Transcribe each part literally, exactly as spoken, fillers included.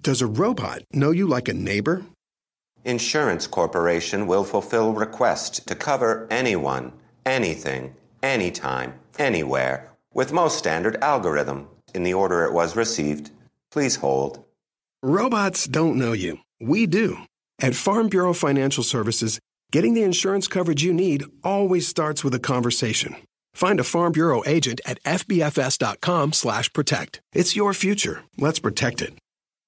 Does a robot know you like a neighbor? Insurance Corporation will fulfill requests to cover anyone, anything, anytime, anywhere, with most standard algorithm in the order it was received. Please hold. Robots don't know you. We do. At Farm Bureau Financial Services, getting the insurance coverage you need always starts with a conversation. Find a Farm Bureau agent at F B F S dot com slash protect. It's your future. Let's protect it.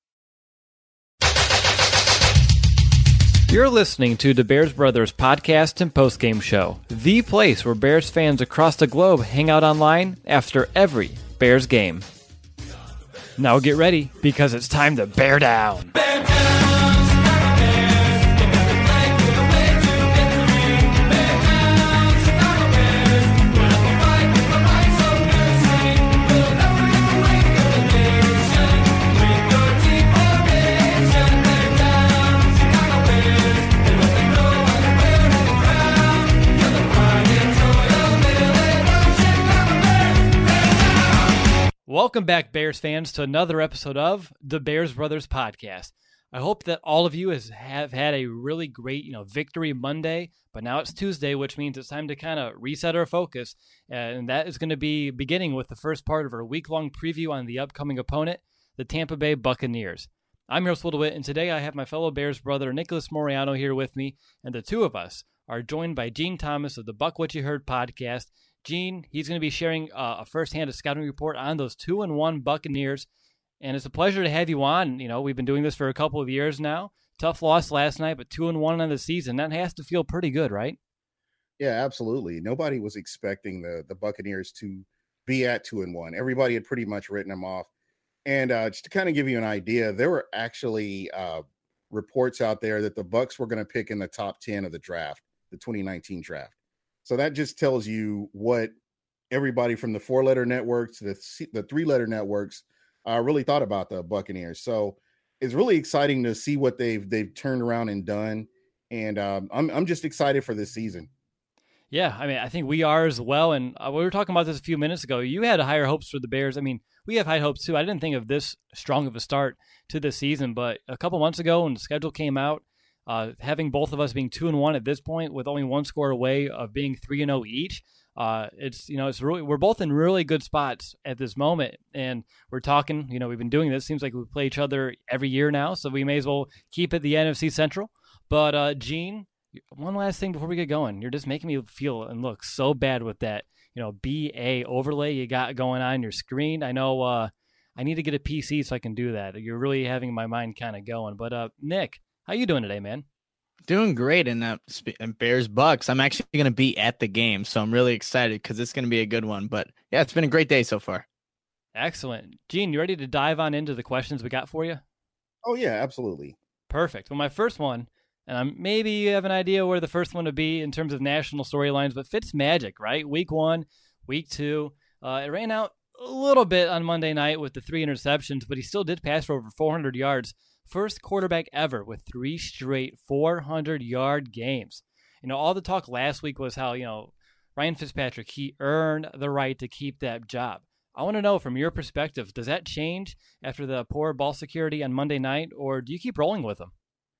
You're listening to the Bears Brothers podcast and postgame show, the place where Bears fans across the globe hang out online after every Bears game. Now get ready, because it's time to bear down. Bear down! Welcome back, Bears fans, to another episode of the Bears Brothers podcast. I hope that all of you has, have had a really great, you know, victory Monday, but now it's Tuesday, which means it's time to kind of reset our focus, and that is going to be beginning with the first part of our week-long preview on the upcoming opponent, the Tampa Bay Buccaneers. I'm your host, Will DeWitt, and today I have my fellow Bears brother, Nicholas Moriano, here with me, and the two of us are joined by Gene Thomas of the Buck What You Heard podcast. Gene, he's going to be sharing uh, a first-hand scouting report on those two and one Buccaneers, and it's a pleasure to have you on. You know, we've been doing this for a couple of years now. Tough loss last night, but two and one on the season. That has to feel pretty good, right? Yeah, absolutely. Nobody was expecting the the Buccaneers to be at two and one. Everybody had pretty much written them off. And uh, just to kind of give you an idea, there were actually uh, reports out there that the Bucs were going to pick in the top ten of the draft, the twenty nineteen draft. So that just tells you what everybody from the four-letter networks to the, the three-letter networks uh, really thought about the Buccaneers. So it's really exciting to see what they've they've turned around and done, and um, I'm I'm just excited for this season. Yeah, I mean, I think we are as well. And uh, we were talking about this a few minutes ago. You had higher hopes for the Bears. I mean, we have high hopes too. I didn't think of this strong of a start to the season, but a couple months ago when the schedule came out, Uh, having both of us being two and one at this point, with only one score away of being three and zero each, uh, it's you know it's really we're both in really good spots at this moment, and we're talking. You know, we've been doing this. Seems like we play each other every year now, so we may as well keep it the N F C Central. But uh, Gene, one last thing before we get going, you're just making me feel and look so bad with that you know B A overlay you got going on your screen. I know uh, I need to get a P C so I can do that. You're really having my mind kind of going. But uh, Nick, how you doing today, man? Doing great in uh, Bears Bucks. I'm actually going to be at the game, so I'm really excited because it's going to be a good one. But yeah, it's been a great day so far. Excellent. Gene, you ready to dive on into the questions we got for you? Oh, yeah, absolutely. Perfect. Well, my first one, and I'm, maybe you have an idea where the first one would be in terms of national storylines, but Fitzmagic, right? Week one, week two. Uh, it ran out a little bit on Monday night with the three interceptions, but he still did pass for over four hundred yards. First quarterback ever with three straight four hundred yard games. You know, all the talk last week was how, you know, Ryan Fitzpatrick, he earned the right to keep that job. I want to know from your perspective, does that change after the poor ball security on Monday night, or do you keep rolling with him?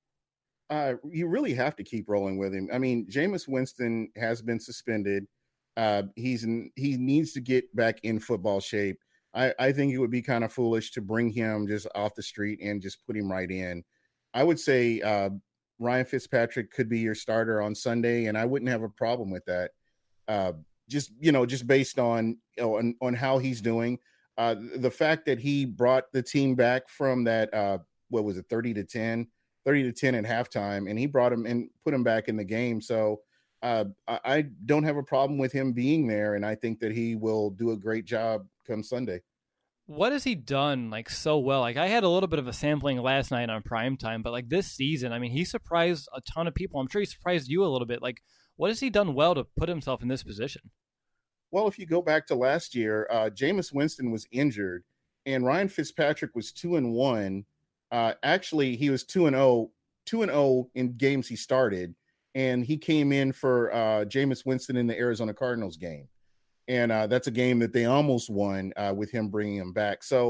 Uh, you really have to keep rolling with him. I mean, Jameis Winston has been suspended. Uh, he's in, he needs to get back in football shape. I, I think it would be kind of foolish to bring him just off the street and just put him right in. I would say uh, Ryan Fitzpatrick could be your starter on Sunday, and I wouldn't have a problem with that. Uh, just, you know, just based on, you know, on, on how he's doing. Uh, the fact that he brought the team back from that, uh, what was it, thirty to ten, thirty to ten at halftime, and he brought him and put him back in the game. So uh, I, I don't have a problem with him being there, and I think that he will do a great job come Sunday. What has he done like so well? Like I had a little bit of a sampling last night on primetime, but like this season, I mean, he surprised a ton of people. I'm sure he surprised you a little bit. Like, what has he done well to put himself in this position? Well, if you go back to last year, uh, Jameis Winston was injured, and Ryan Fitzpatrick was two and one. Uh, actually, he was two and zero, two and zero in games he started, and he came in for uh, Jameis Winston in the Arizona Cardinals game. And uh, that's a game that they almost won uh, with him bringing him back. So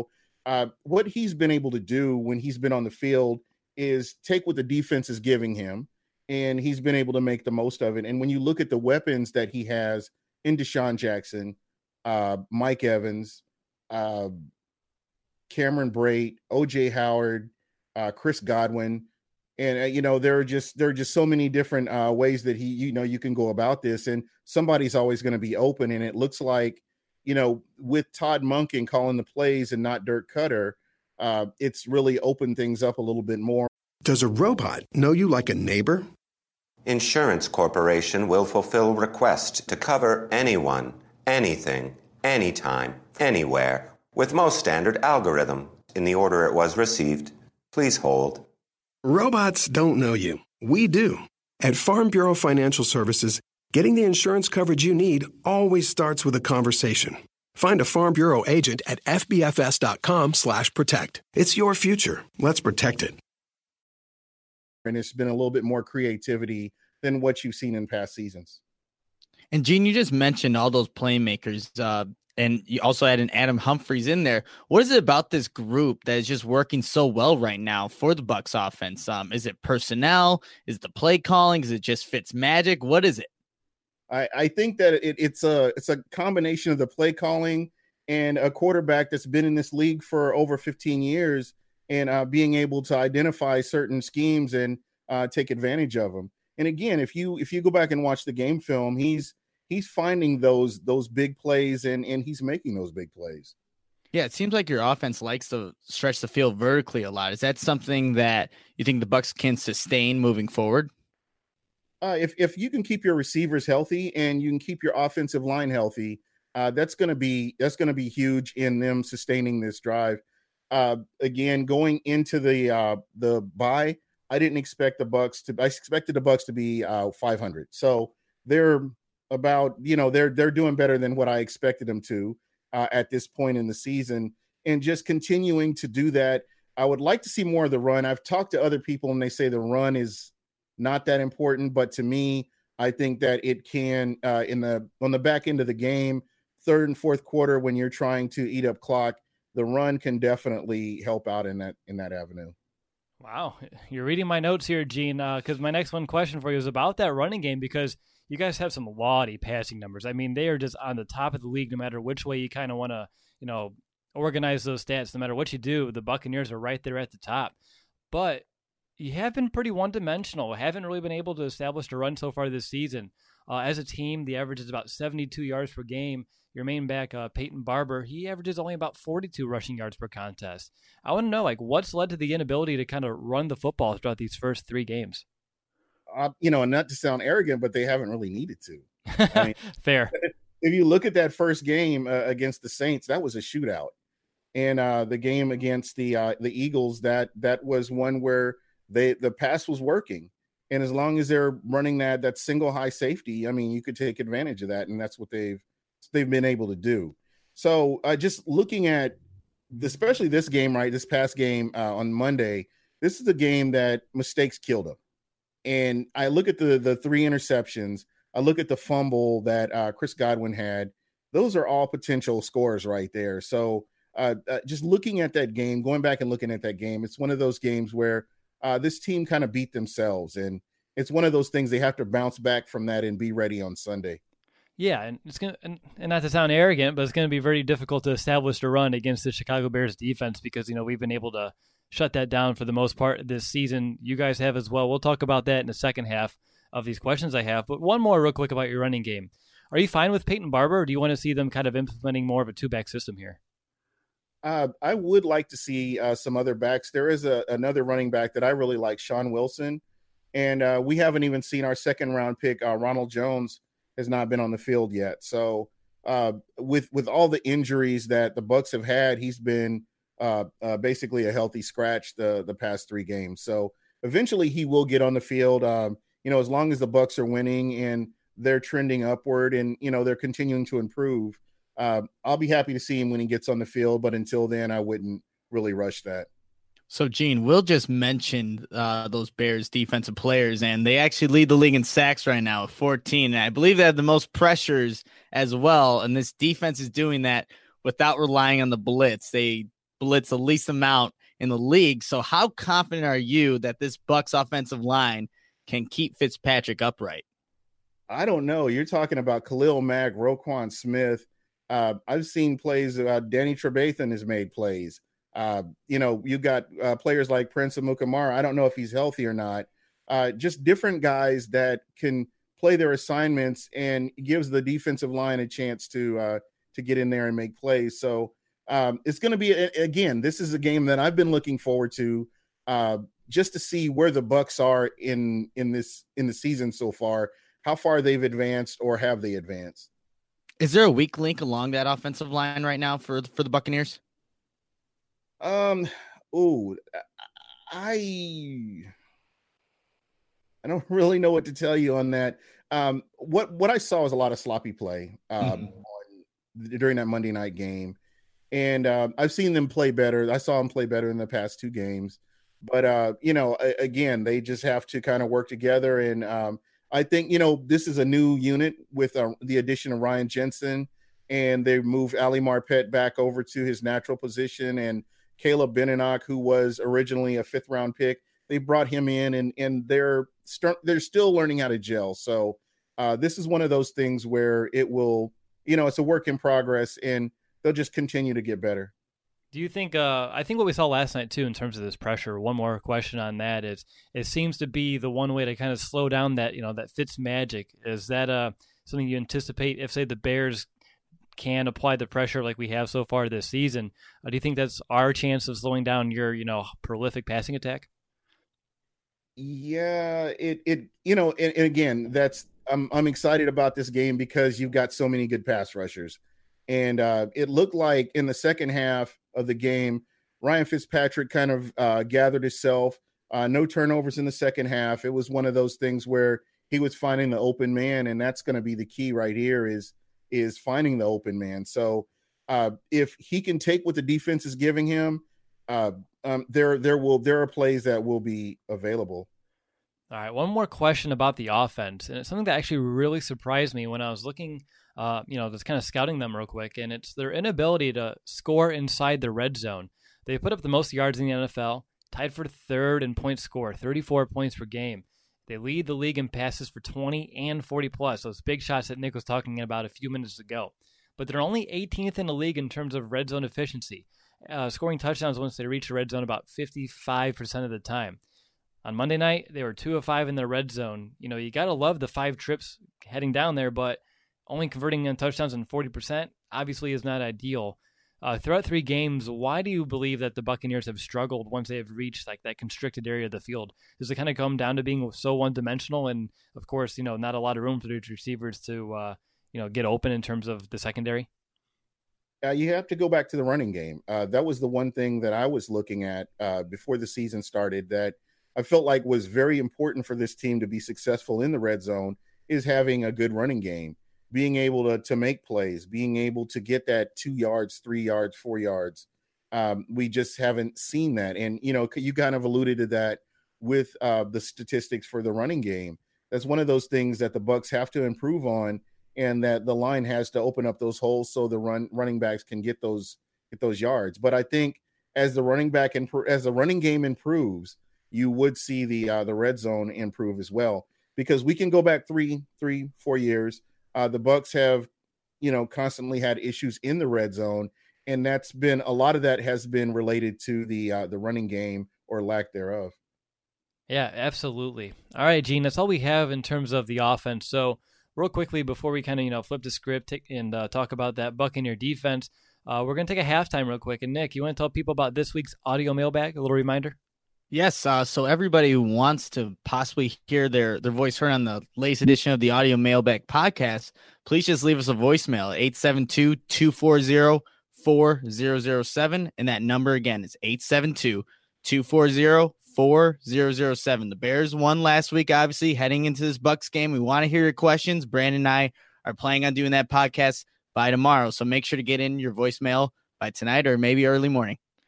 uh, what he's been able to do when he's been on the field is take what the defense is giving him, and he's been able to make the most of it. And when you look at the weapons that he has in Deshaun Jackson, uh, Mike Evans, uh, Cameron Brate, O J Howard, uh, Chris Godwin, and uh, you know there are just there are just so many different uh, ways that he you know you can go about this, and somebody's always going to be open. And it looks like, you know, with Todd Monken calling the plays and not Dirk Cutter, uh, it's really opened things up a little bit more. Does a robot know you like a neighbor? Insurance Corporation will fulfill requests to cover anyone, anything, anytime, anywhere, with most standard algorithm in the order it was received. Please hold. Robots don't know you. We do. At Farm Bureau Financial Services, getting the insurance coverage you need always starts with a conversation. Find a Farm Bureau agent at fbfs.com slash protect. It's your future. Let's protect it. And it's been a little bit more creativity than what you've seen in past seasons. And Gene, you just mentioned all those playmakers, uh, and you also had an Adam Humphries in there. What is it about this group that is just working so well right now for the Bucs offense? Um, is it personnel? Is it the play calling? Is it just Fitz magic? What is it? I, I think that it, it's a it's a combination of the play calling and a quarterback that's been in this league for over fifteen years, and uh, being able to identify certain schemes and uh, take advantage of them. And again, if you if you go back and watch the game film, he's he's finding those those big plays and and he's making those big plays. Yeah, it seems like your offense likes to stretch the field vertically a lot. Is that something that you think the Bucs can sustain moving forward? Uh, if if you can keep your receivers healthy and you can keep your offensive line healthy, uh, that's going to be that's going to be huge in them sustaining this drive. Uh, again, going into the uh, the bye, I didn't expect the Bucs to. I expected the Bucs to be uh, five hundred. So they're about you know they're they're doing better than what I expected them to uh, at this point in the season, and just continuing to do that. I would like to see more of the run. I've talked to other people and they say the run is not that important, but to me, I think that it can uh, in the on the back end of the game, third and fourth quarter, when you're trying to eat up clock, the run can definitely help out in that in that avenue. Wow, you're reading my notes here, Gene. Because uh, my next one question for you is about that running game, because you guys have some laudy passing numbers. I mean, they are just on the top of the league, no matter which way you kind of want to, you know, organize those stats. No matter what you do, the Buccaneers are right there at the top. But you have been pretty one-dimensional. Haven't really been able to establish a run so far this season. Uh, as a team, the average is about seventy-two yards per game. Your main back, uh, Peyton Barber, he averages only about forty-two rushing yards per contest. I want to know, like, what's led to the inability to kind of run the football throughout these first three games? Uh, you know, and not to sound arrogant, but they haven't really needed to. I mean, Fair. If you look at that first game uh, against the Saints, that was a shootout. And uh, the game against the uh, the Eagles, that that was one where they the pass was working. And as long as they're running that that single high safety, I mean, you could take advantage of that, and that's what they've they've been able to do. So uh, just looking at, especially this game, right, this past game uh, on Monday, this is the game that mistakes killed them. And I look at the the three interceptions, I look at the fumble that uh, Chris Godwin had. Those are all potential scores right there. So uh, uh, just looking at that game, going back and looking at that game, it's one of those games where uh, this team kind of beat themselves. And it's one of those things they have to bounce back from that and be ready on Sunday. Yeah, and it's gonna and, and not to sound arrogant, but it's gonna be very difficult to establish a run against the Chicago Bears defense, because you know we've been able to shut that down for the most part this season. You guys have as well. We'll talk about that in the second half of these questions I have. But one more real quick about your running game. Are you fine with Peyton Barber, or do you want to see them kind of implementing more of a two-back system here? Uh, I would like to see uh, some other backs. There is a, another running back that I really like, Sean Wilson. And uh, we haven't even seen our second-round pick, uh, Ronald Jones, has not been on the field yet. So uh, with with all the injuries that the Bucs have had, he's been uh, uh, basically a healthy scratch the the past three games. So eventually he will get on the field. Um, you know, as long as the Bucs are winning and they're trending upward and, you know, they're continuing to improve, uh, I'll be happy to see him when he gets on the field. But until then, I wouldn't really rush that. So, Gene, Will just mentioned uh, those Bears defensive players, and they actually lead the league in sacks right now at fourteen. And I believe they have the most pressures as well. And this defense is doing that without relying on the blitz. They blitz the least amount in the league. So how confident are you that this Bucs offensive line can keep Fitzpatrick upright? I don't know. You're talking about Khalil Mack, Roquan Smith. Uh, I've seen plays. Uh, Danny Trevathan has made plays. Uh, you know, you got uh, players like Prince Amukamara. I don't know if he's healthy or not. Uh, just different guys that can play their assignments and gives the defensive line a chance to uh, to get in there and make plays. So um, it's going to be, again, this is a game that I've been looking forward to uh, just to see where the Bucs are in in this in the season so far, how far they've advanced or have they advanced. Is there a weak link along that offensive line right now for for the Buccaneers? Um, oh, I I don't really know what to tell you on that. Um, what what I saw was a lot of sloppy play um, mm-hmm. on, during that Monday night game, and uh, I've seen them play better. I saw them play better in the past two games, but uh, you know, again, they just have to kind of work together. And um, I think you know this is a new unit with uh, the addition of Ryan Jensen, and they moved Ali Marpet back over to his natural position, and Caleb Benenoch, who was originally a fifth round pick, they brought him in, and and they're start they're still learning how to gel. So uh, this is one of those things where it will, you know, it's a work in progress, and they'll just continue to get better. Do you think? Uh, I think what we saw last night too, in terms of this pressure. One more question on that is: it seems to be the one way to kind of slow down that, you know, that Fitz magic. Is that uh, something you anticipate if, say, the Bears can apply the pressure like we have so far this season? Uh, do you think that's our chance of slowing down your, you know, prolific passing attack? Yeah, it it you know, and, and again, that's I'm I'm excited about this game because you've got so many good pass rushers, and uh, it looked like in the second half of the game, Ryan Fitzpatrick kind of uh, gathered himself. Uh, no turnovers in the second half. It was one of those things where he was finding the open man, and that's going to be the key right here is is finding the open man. So uh, if he can take what the defense is giving him, uh, um, there there will there are plays that will be available. All right, one more question about the offense, and it's something that actually really surprised me when I was looking, uh, you know, just kind of scouting them real quick, and it's their inability to score inside the red zone. They put up the most yards in the N F L, tied for third in points scored, thirty-four points per game. They lead the league in passes for twenty and forty plus, those big shots that Nick was talking about a few minutes ago. But they're only eighteenth in the league in terms of red zone efficiency, uh, scoring touchdowns once they reach the red zone about fifty-five percent of the time. On Monday night, they were two of five in the red zone. You know, you got to love the five trips heading down there, but only converting in touchdowns in forty percent obviously is not ideal. Uh, throughout three games, why do you believe that the Buccaneers have struggled once they have reached like that constricted area of the field? Does it kind of come down to being so one-dimensional, and of course, you know, not a lot of room for these receivers to, uh, you know, get open in terms of the secondary? Uh, you have to go back to the running game. Uh, that was the one thing that I was looking at uh, before the season started that I felt like was very important for this team to be successful in the red zone is having a good running game. Being able to, to make plays, being able to get that two yards, three yards, four yards. Um, we just haven't seen that. And, you know, you kind of alluded to that with uh, the statistics for the running game. That's one of those things that the Bucs have to improve on, and that the line has to open up those holes so the run running backs can get those get those yards. But I think as the running back imp- as the running game improves, you would see the uh, the red zone improve as well, because we can go back three, three, four years. Uh, the Bucs have, you know, constantly had issues in the red zone, and that's been a lot of that has been related to the uh, the running game or lack thereof. Yeah, absolutely. All right, Gene, that's all we have in terms of the offense. So, real quickly before we kind of you know flip the script and uh, talk about that Buccaneer defense, uh, we're gonna take a halftime real quick. And Nick, you want to tell people about this week's audio mailbag? A little reminder. Yes, uh, so everybody who wants to possibly hear their, their voice heard on the latest edition of the Audio Mailbag podcast, please just leave us a voicemail at eight seven two, two four zero, four zero zero seven. And that number again is eight seven two, two four zero, four zero zero seven. The Bears won last week, obviously, heading into this Bucs game. We want to hear your questions. Brandon and I are planning on doing that podcast by tomorrow, so make sure to get in your voicemail by tonight or maybe early morning.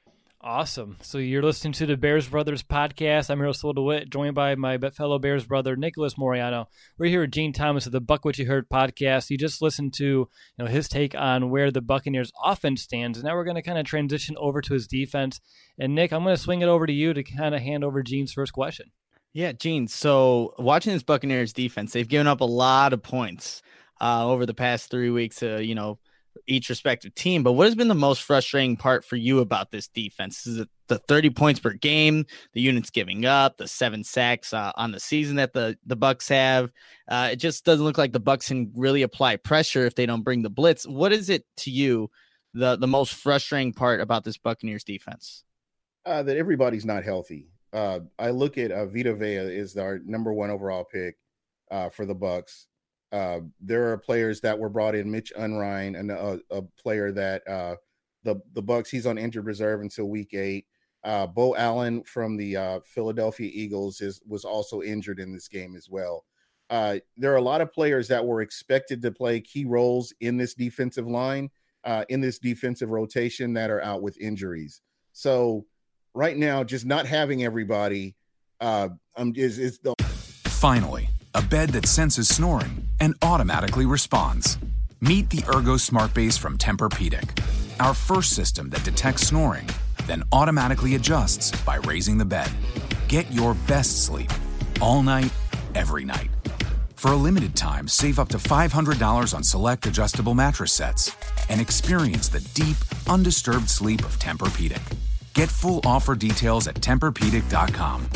Awesome. So you're listening to the Bears Brothers podcast. I'm Earl DeWitt, joined by my fellow Bears brother, Nicholas Moriano. We're here with Gene Thomas of the Buck What You Heard podcast. You just listened to you know his take on where the Buccaneers offense stands. And now we're going to kind of transition over to his defense. And Nick, I'm going to swing it over to you to kind of hand over Gene's first question. Yeah, Gene. So watching this Buccaneers defense, they've given up a lot of points uh, over the past three weeks, uh, you know, each respective team. But what has been the most frustrating part for you about this defense? Is it the thirty points per game, the units giving up, the seven sacks uh, on the season that the, the Bucs have? Uh, it just doesn't look like the Bucs can really apply pressure if they don't bring the blitz. What is it to you, the, the most frustrating part about this Buccaneers defense? Uh, that everybody's not healthy. Uh, I look at uh, Vita Vea is our number one overall pick uh, for the Bucs. Uh, there are players that were brought in, Mitch Unrein, and a, a player that uh, the the Bucs, he's on injured reserve until week eight. Uh, Bo Allen from the uh, Philadelphia Eagles is was also injured in this game as well. Uh, there are a lot of players that were expected to play key roles in this defensive line, uh, in this defensive rotation that are out with injuries. So right now, just not having everybody uh, um, is is the finally. A bed that senses snoring and automatically responds. Meet the Ergo Smart Base from Tempur-Pedic, our first system that detects snoring, then automatically adjusts by raising the bed. Get your best sleep all night, every night. For a limited time, save up to five hundred dollars on select adjustable mattress sets and experience the deep, undisturbed sleep of Tempur-Pedic. Get full offer details at Tempur Pedic dot com.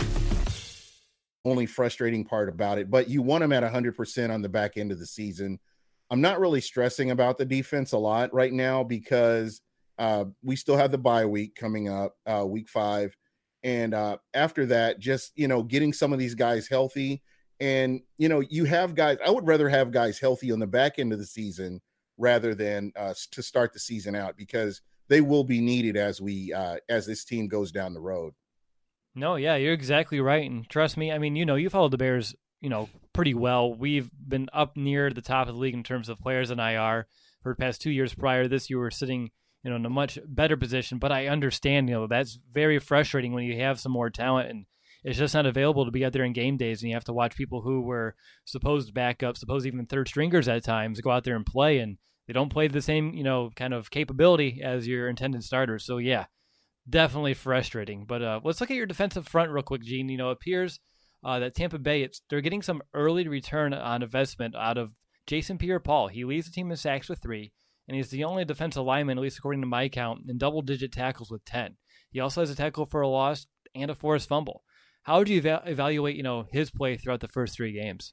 Only frustrating part about it, but you want them at one hundred percent on the back end of the season. I'm not really stressing about the defense a lot right now because uh, we still have the bye week coming up, uh, week five. And uh, after that, just, you know, getting some of these guys healthy. And, you know, you have guys, I would rather have guys healthy on the back end of the season rather than uh, to start the season out, because they will be needed as we, uh, as this team goes down the road. No, yeah, you're exactly right. And trust me, I mean, you know, you follow the Bears, you know, pretty well. We've been up near the top of the league in terms of players in I R for the past two years prior. This year, we're sitting, you know, in a much better position. But I understand, you know, that's very frustrating when you have some more talent and it's just not available to be out there in game days. And you have to watch people who were supposed backups, supposed even third stringers at times go out there and play. And they don't play the same, you know, kind of capability as your intended starters. So, yeah. Definitely frustrating, but uh, let's look at your defensive front real quick, Gene. You know, it appears uh, that Tampa Bay, it's they're getting some early return on investment out of Jason Pierre-Paul. He leads the team in sacks with three, and he's the only defensive lineman, at least according to my count, in double-digit tackles with ten. He also has a tackle for a loss and a forced fumble. How would you eva- evaluate, you know, his play throughout the first three games?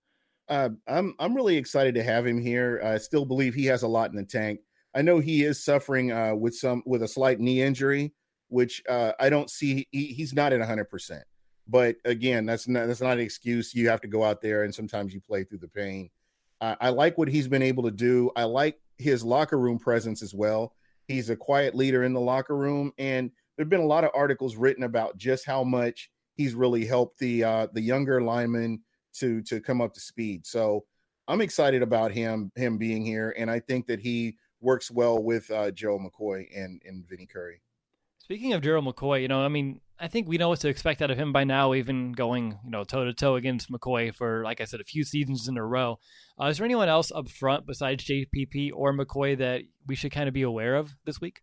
Uh, I'm I'm really excited to have him here. I still believe he has a lot in the tank. I know he is suffering uh, with some with a slight knee injury, which uh, I don't see. He, he's not at one hundred percent. But again, that's not that's not an excuse. You have to go out there, and sometimes you play through the pain. Uh, I like what he's been able to do. I like his locker room presence as well. He's a quiet leader in the locker room, and there have been a lot of articles written about just how much he's really helped the uh, the younger linemen to to come up to speed. So I'm excited about him him being here, and I think that he works well with uh, Gerald McCoy and and Vinny Curry. Speaking of Gerald McCoy, you know, I mean, I think we know what to expect out of him by now, even going, you know, toe-to-toe against McCoy for, like I said, a few seasons in a row. Uh, is there anyone else up front besides J P P or McCoy that we should kind of be aware of this week?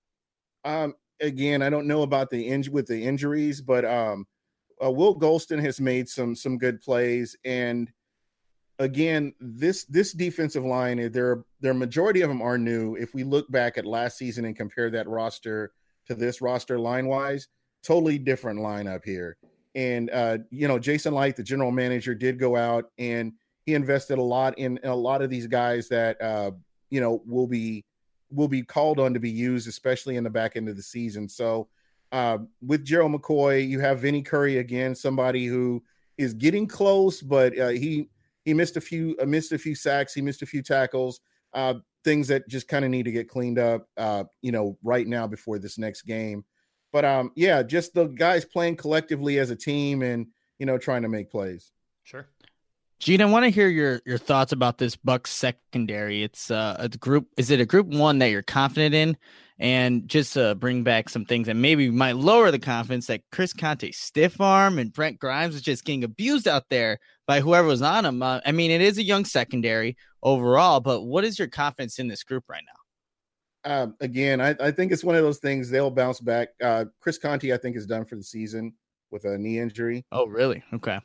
Um, again, I don't know about the inj- with the injuries, but um, uh, Will Golston has made some some good plays. And again, this this defensive line, their their majority of them are new. If we look back at last season and compare that roster to this roster line-wise, totally different lineup here. And, uh, you know, Jason Light, the general manager, did go out and he invested a lot in, in a lot of these guys that, uh, you know, will be will be called on to be used, especially in the back end of the season. So uh, with Gerald McCoy, you have Vinny Curry again, somebody who is getting close, but uh, he he missed a few uh, missed a few sacks, he missed a few tackles. Uh, things that just kind of need to get cleaned up, uh, you know, right now before this next game. But, um, yeah, just the guys playing collectively as a team and, you know, trying to make plays. Sure. Gene, I want to hear your your thoughts about this Bucks secondary. It's uh, a group. Is it a group one that you're confident in? And just to bring back some things that maybe might lower the confidence, that Chris Conte stiff arm and Brent Grimes was just getting abused out there by whoever was on him. Uh, I mean, it is a young secondary overall, but what is your confidence in this group right now? Uh, again, I, I think it's one of those things. They'll bounce back. Uh, Chris Conte, I think, is done for the season with a knee injury. Oh, really? Okay.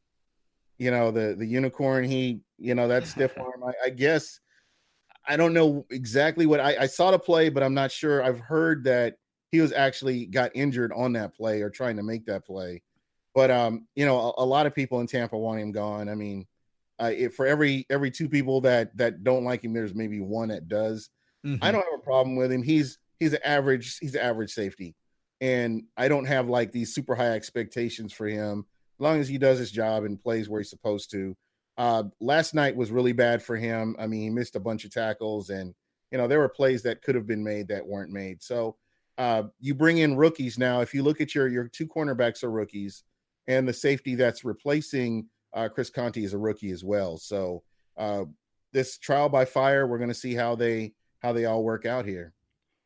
You know, the the unicorn, he, you know, that stiff arm, I, I guess, I don't know exactly what I, I saw the play, but I'm not sure. I've heard that he was actually got injured on that play or trying to make that play. But, um, you know, a, a lot of people in Tampa want him gone. I mean, uh, if for every every two people that that don't like him, there's maybe one that does. Mm-hmm. I don't have a problem with him. He's he's an average, he's an average safety. And I don't have like these super high expectations for him. As long as he does his job and plays where he's supposed to. Uh, last night was really bad for him. I mean, he missed a bunch of tackles, and, you know, there were plays that could have been made that weren't made. So uh, you bring in rookies now. If you look at your your two cornerbacks are rookies, and the safety that's replacing uh, Chris Conte is a rookie as well. So uh, this trial by fire, we're going to see how they how they all work out here.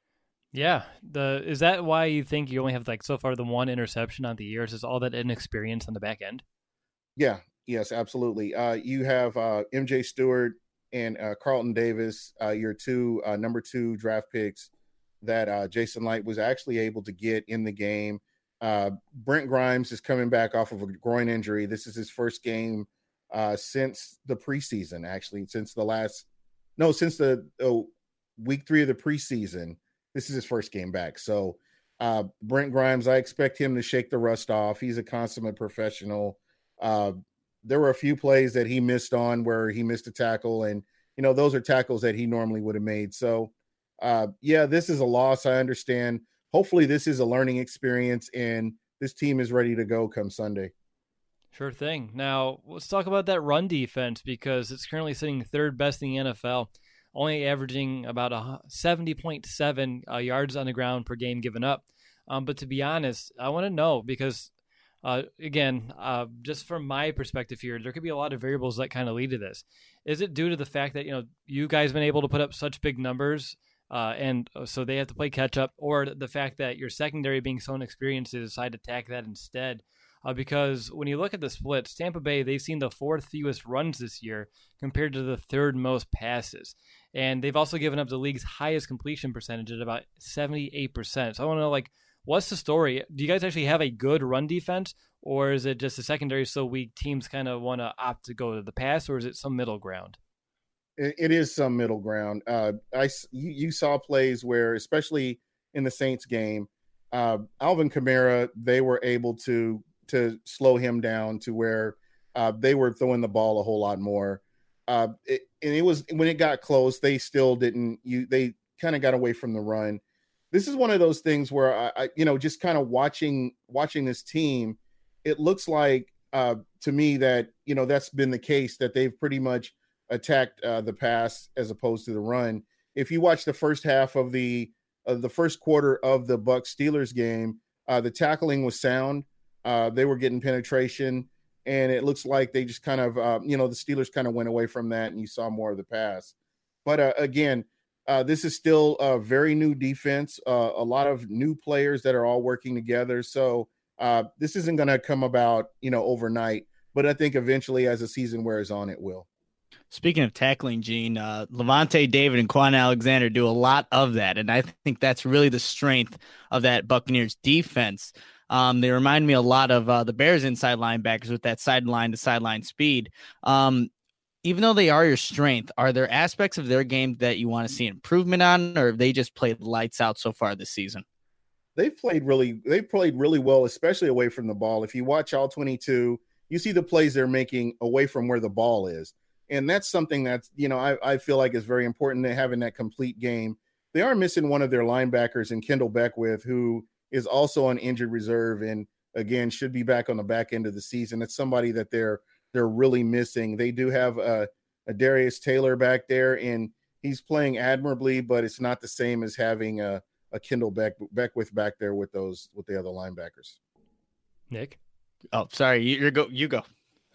Yeah, the is that why you think you only have like so far the one interception on the year? Is all that inexperience on the back end? Yeah, yes, absolutely. Uh, you have uh, M J Stewart and uh, Carlton Davis, uh, your two uh, number two draft picks that uh, Jason Light was actually able to get in the game. Uh, Brent Grimes is coming back off of a groin injury. This is his first game uh, since the preseason, actually, since the last no, since the oh, week three of the preseason. This is his first game back. So uh, Brent Grimes, I expect him to shake the rust off. He's a consummate professional. Uh, there were a few plays that he missed on where he missed a tackle. And, you know, those are tackles that he normally would have made. So, uh, yeah, this is a loss. I understand. Hopefully this is a learning experience and this team is ready to go come Sunday. Sure thing. Now, let's talk about that run defense because it's currently sitting third best in the N F L. Only averaging about a seventy point seven uh, yards on the ground per game given up. Um, but to be honest, I want to know because, uh, again, uh, just from my perspective here, there could be a lot of variables that kind of lead to this. Is it due to the fact that, you know, you guys have been able to put up such big numbers uh, and so they have to play catch up, or the fact that your secondary being so inexperienced, they decide to attack that instead? Uh, because when you look at the splits, Tampa Bay, they've seen the fourth fewest runs this year compared to the third most passes. And they've also given up the league's highest completion percentage at about seventy-eight percent. So I want to know, like, what's the story? Do you guys actually have a good run defense, or is it just the secondary so weak teams kind of want to opt to go to the pass, or is it some middle ground? It, it is some middle ground. Uh, I, you, you saw plays where, especially in the Saints game, uh, Alvin Kamara, they were able to to slow him down to where uh, they were throwing the ball a whole lot more. Uh, it, and it was when it got close, they still didn't. You they kind of got away from the run. This is one of those things where I, I you know, just kind of watching watching this team, it looks like uh, to me that you know that's been the case, that they've pretty much attacked uh, the pass as opposed to the run. If you watch the first half of the of the first quarter of the Bucs Steelers game, uh, the tackling was sound. Uh, they were getting penetration, and it looks like they just kind of, uh, you know, the Steelers kind of went away from that, and you saw more of the pass. But uh, again, uh, this is still a very new defense, uh, a lot of new players that are all working together. So uh, this isn't going to come about, you know, overnight. But I think eventually, as the season wears on, it will. Speaking of tackling, Gene, uh, Levante David and Quan Alexander do a lot of that, and I think that's really the strength of that Buccaneers defense. Um, they remind me a lot of uh, the Bears inside linebackers with that sideline to sideline speed. Um, even though they are your strength, are there aspects of their game that you want to see improvement on, or have they just played lights out so far this season? They've played really, they've played really well, especially away from the ball. If you watch all twenty-two, you see the plays they're making away from where the ball is. And that's something that's, you know, I, I feel like is very important to having that complete game. They are missing one of their linebackers in Kendall Beckwith, who is also on injured reserve and again should be back on the back end of the season. It's somebody that they're they're really missing. They do have a, a Darius Taylor back there, and he's playing admirably, but it's not the same as having a, a Kendall Beck, Beckwith back there with those with the other linebackers. Nick, oh sorry, you, you go. You go.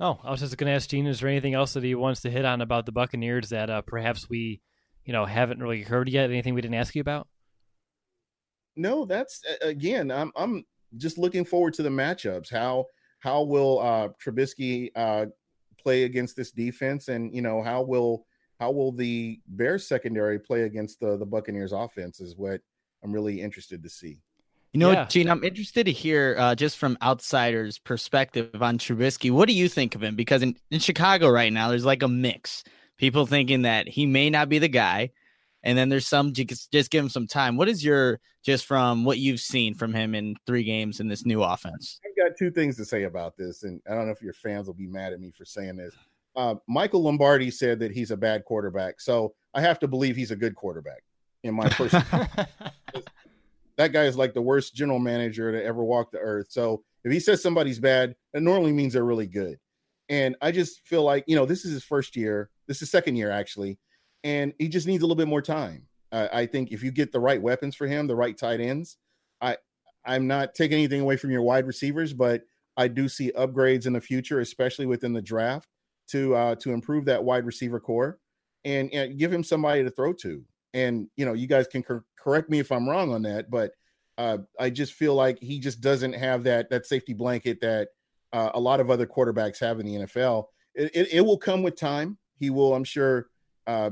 Oh, I was just going to ask Gene, is there anything else that he wants to hit on about the Buccaneers that uh, perhaps we, you know, haven't really heard yet? Anything we didn't ask you about? No, that's again, I'm I'm just looking forward to the matchups. How how will uh, Trubisky uh, play against this defense, and you know how will how will the Bears secondary play against the the Buccaneers offense is what I'm really interested to see. You know, Yeah. Gene, I'm interested to hear uh, just from outsiders' perspective on Trubisky. What do you think of him? Because in, in Chicago right now, there's like a mix. People thinking that he may not be the guy, and then there's some just, just give him some time. What is your, just from what you've seen from him in three games in this new offense? I've got two things to say about this, and I don't know if your fans will be mad at me for saying this. Uh, Michael Lombardi said that he's a bad quarterback, so I have to believe he's a good quarterback in my personal That guy is like the worst general manager to ever walk the earth. So if he says somebody's bad, that normally means they're really good. And I just feel like, you know, this is his first year. This is second year, actually. And he just needs a little bit more time. Uh, I think if you get the right weapons for him, the right tight ends, I, I'm not taking anything away from your wide receivers, but I do see upgrades in the future, especially within the draft, to uh, to improve that wide receiver core and, and give him somebody to throw to. And, you know, you guys can cor- correct me if I'm wrong on that, but uh, I just feel like he just doesn't have that that safety blanket that uh, a lot of other quarterbacks have in the N F L. It, it, it will come with time. He will, I'm sure, uh,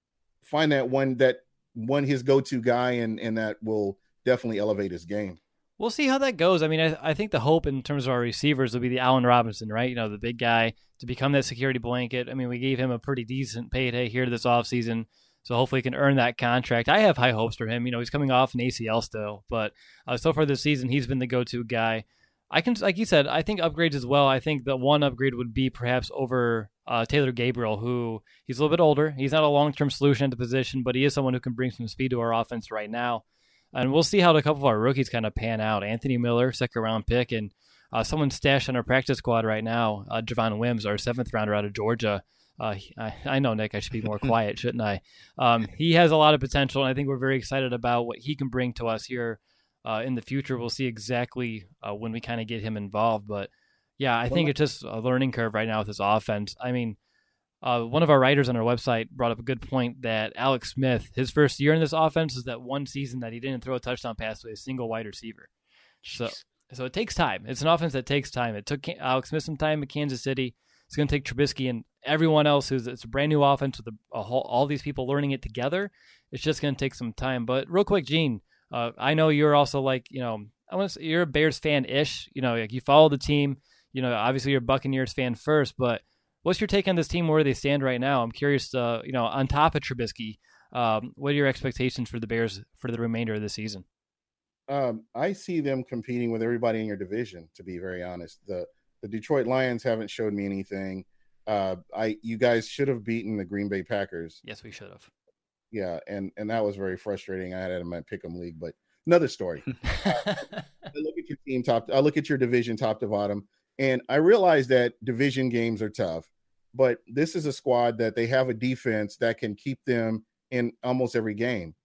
find that one that one his go-to guy, and and that will definitely elevate his game. We'll see how that goes. I mean, I, I think the hope in terms of our receivers will be the Allen Robinson, right? You know, the big guy to become that security blanket. I mean, we gave him a pretty decent payday here this offseason. So hopefully he can earn that contract. I have high hopes for him. You know, he's coming off an A C L still, but uh, so far this season, he's been the go-to guy. I can, like you said, I think upgrades as well. I think the one upgrade would be perhaps over uh, Taylor Gabriel, who he's a little bit older. He's not a long-term solution at the position, but he is someone who can bring some speed to our offense right now. And we'll see how a couple of our rookies kind of pan out. Anthony Miller, second-round pick, and uh, someone stashed on our practice squad right now, uh, Javon Wims, our seventh-rounder out of Georgia. Uh, I, I know, Nick, I should be more quiet, shouldn't I? Um, he has a lot of potential, and I think we're very excited about what he can bring to us here uh, in the future. We'll see exactly uh, when we kind of get him involved. But, yeah, I think it's just a learning curve right now with this offense. I mean, uh, one of our writers on our website brought up a good point that Alex Smith, his first year in this offense is that one season that he didn't throw a touchdown pass to a single wide receiver. So, so it takes time. It's an offense that takes time. It took Alex Smith some time at Kansas City. It's going to take Trubisky and everyone else who's it's a brand new offense with a, a whole, all these people learning it together. It's just going to take some time. But real quick, Gene, uh, I know you're also like, you know, I want to say you're a Bears fan-ish. You know, like you follow the team. You know, obviously you're a Buccaneers fan first, but what's your take on this team, where they stand right now? I'm curious, uh, you know, on top of Trubisky, um, what are your expectations for the Bears for the remainder of the season? Um, I see them competing with everybody in your division, to be very honest. The The Detroit Lions haven't showed me anything. Uh, I you guys should have beaten the Green Bay Packers. Yes, we should have. Yeah, and and that was very frustrating. I had it in my pick'em league, but another story. uh, I look at your team top. I look at your division top to bottom, and I realize that division games are tough. But this is a squad that they have a defense that can keep them in almost every game.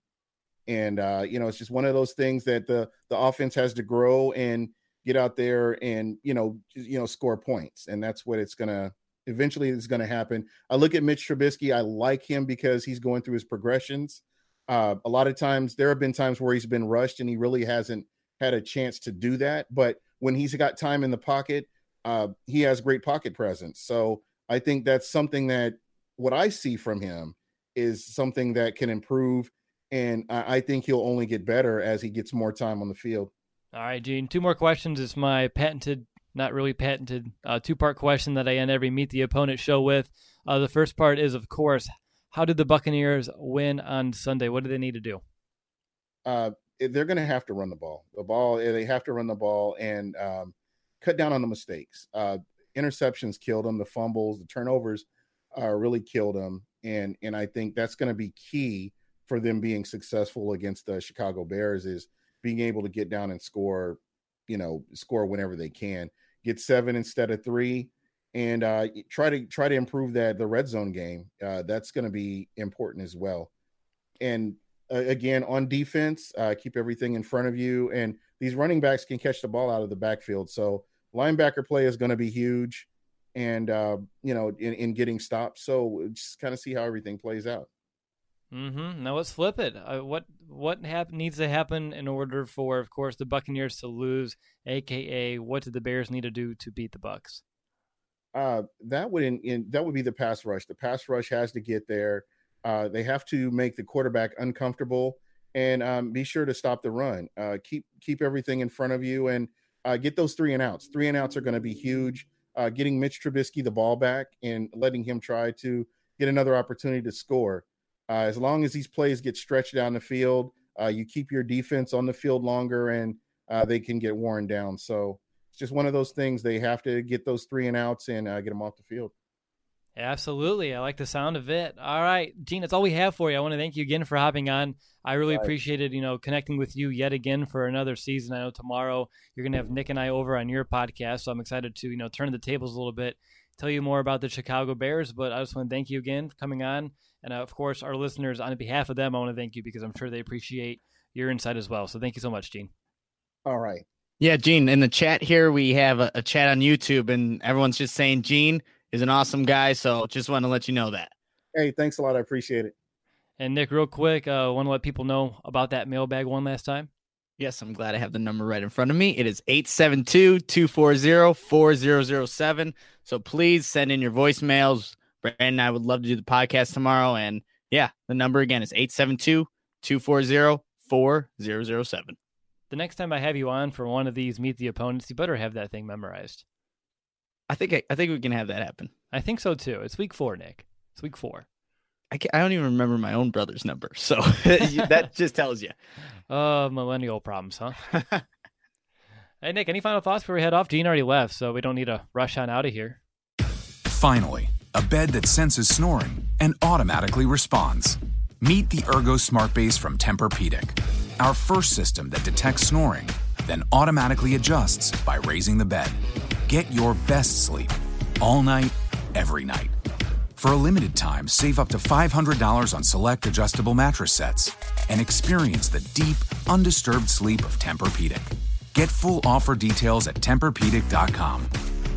And uh, you know, it's just one of those things that the the offense has to grow and get out there and, you know, you know, score points. And that's what it's going to eventually is going to happen. I look at Mitch Trubisky. I like him because he's going through his progressions. Uh, a lot of times there have been times where he's been rushed and he really hasn't had a chance to do that. But when he's got time in the pocket, uh, he has great pocket presence. So I think that's something that what I see from him is something that can improve. And I, I think he'll only get better as he gets more time on the field. All right, Gene, two more questions. It's my patented, not really patented, uh, two-part question that I end every Meet the Opponent show with. Uh, the first part is, of course, how did the Buccaneers win on Sunday? What do they need to do? Uh, they're going to have to run the ball. The ball, they have to run the ball and um, cut down on the mistakes. Uh, interceptions killed them. The fumbles, the turnovers uh, really killed them. And, and I think that's going to be key for them being successful against the Chicago Bears is being able to get down and score, you know, score whenever they can, get seven instead of three, and uh, try to try to improve that the red zone game. Uh, that's going to be important as well. And uh, again, on defense, uh, keep everything in front of you. And these running backs can catch the ball out of the backfield. So linebacker play is going to be huge. and, uh, you know, in, in getting stops. So just kind of see how everything plays out. Mm-hmm. Now let's flip it. Uh, what what hap- needs to happen in order for, of course, the Buccaneers to lose, A K A what do the Bears need to do to beat the Bucs? Uh, that would in, in that would be the pass rush. The pass rush has to get there. Uh, they have to make the quarterback uncomfortable and um, be sure to stop the run. Uh, keep keep everything in front of you and uh, get those three and outs. Three and outs are going to be huge. Uh, getting Mitch Trubisky the ball back and letting him try to get another opportunity to score. Uh, as long as these plays get stretched down the field, uh, you keep your defense on the field longer and uh, they can get worn down. So it's just one of those things. They have to get those three and outs and uh, get them off the field. Absolutely. I like the sound of it. All right, Gene, that's all we have for you. I want to thank you again for hopping on. I really right. appreciated, you know, connecting with you yet again for another season. I know tomorrow you're going to have Nick and I over on your podcast, so I'm excited to, you know, turn the tables a little bit, tell you more about the Chicago Bears, but I just want to thank you again for coming on. And, uh, of course, our listeners, on behalf of them, I want to thank you because I'm sure they appreciate your insight as well. So thank you so much, Gene. All right. Yeah, Gene, in the chat here, we have a, a chat on YouTube, and everyone's just saying Gene is an awesome guy, so just want to let you know that. Hey, thanks a lot. I appreciate it. And, Nick, real quick, I uh, want to let people know about that mailbag one last time. Yes, I'm glad I have the number right in front of me. It is eight seven two, two four zero, four zero zero seven. So please send in your voicemails. Brandon and I would love to do the podcast tomorrow. And yeah, the number again is eight seven two, two four zero, four zero zero seven. The next time I have you on for one of these Meet the Opponents, you better have that thing memorized. I think I, I think we can have that happen. I think so too. It's week four, Nick. It's week four. I, can't, I don't even remember my own brother's number. So that just tells you. Uh, millennial problems, huh? Hey, Nick, any final thoughts before we head off? Gene already left, so we don't need to rush on out of here. Finally, a bed that senses snoring and automatically responds. Meet the Ergo Smart Base from Tempur-Pedic, our first system that detects snoring, then automatically adjusts by raising the bed. Get your best sleep all night, every night. For a limited time, save up to five hundred dollars on select adjustable mattress sets and experience the deep, undisturbed sleep of Tempur-Pedic. Get full offer details at Tempur Pedic dot com.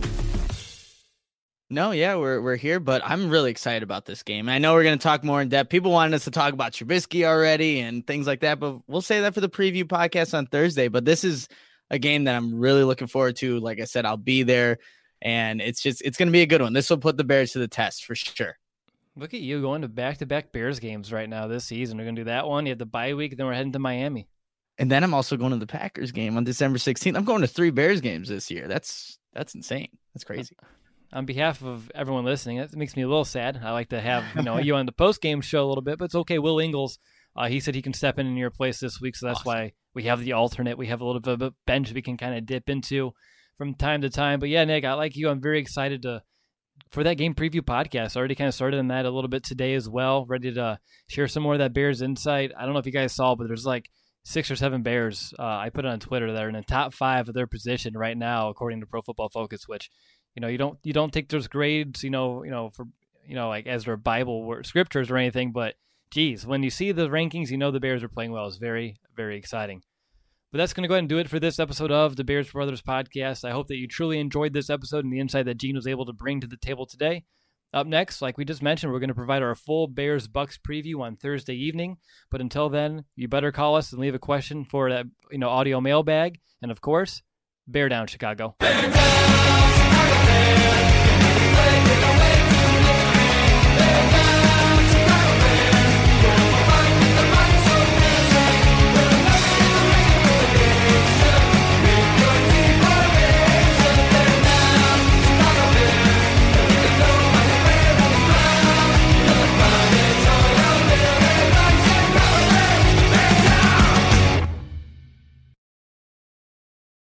No, yeah, we're we're here, but I'm really excited about this game. I know we're going to talk more in depth. People wanted us to talk about Trubisky already and things like that, but we'll say that for the preview podcast on Thursday. But this is a game that I'm really looking forward to. Like I said, I'll be there. And it's just, it's going to be a good one. This will put the Bears to the test for sure. Look at you going to back-to-back Bears games right now this season. We're going to do that one. You have the bye week, then we're heading to Miami. And then I'm also going to the Packers game on December sixteenth. I'm going to three Bears games this year. That's that's insane. That's crazy. On behalf of everyone listening, that makes me a little sad. I like to have you know you on the post-game show a little bit, but it's okay. Will Ingles, uh, he said he can step in in your place this week, so that's awesome. Why we have the alternate. We have a little bit of a bench we can kind of dip into from time to time. But yeah, Nick, I like you. I'm very excited to for that game preview podcast. I already kind of started on that a little bit today as well. Ready to share some more of that Bears insight. I don't know if you guys saw, but there's like six or seven Bears. Uh, I put it on Twitter that are in the top five of their position right now, according to Pro Football Focus. Which, you know, you don't you don't take those grades, you know, you know for you know like as their Bible or scriptures or anything. But geez, when you see the rankings, you know the Bears are playing well. It's very very exciting. But that's going to go ahead and do it for this episode of the Bears Brothers podcast. I hope that you truly enjoyed this episode and the insight that Gene was able to bring to the table today. Up next, like we just mentioned, we're going to provide our full Bears Bucks preview on Thursday evening. But until then, you better call us and leave a question for that, you know, audio mailbag. And of course, bear down, Chicago. Bear down, Chicago Bears.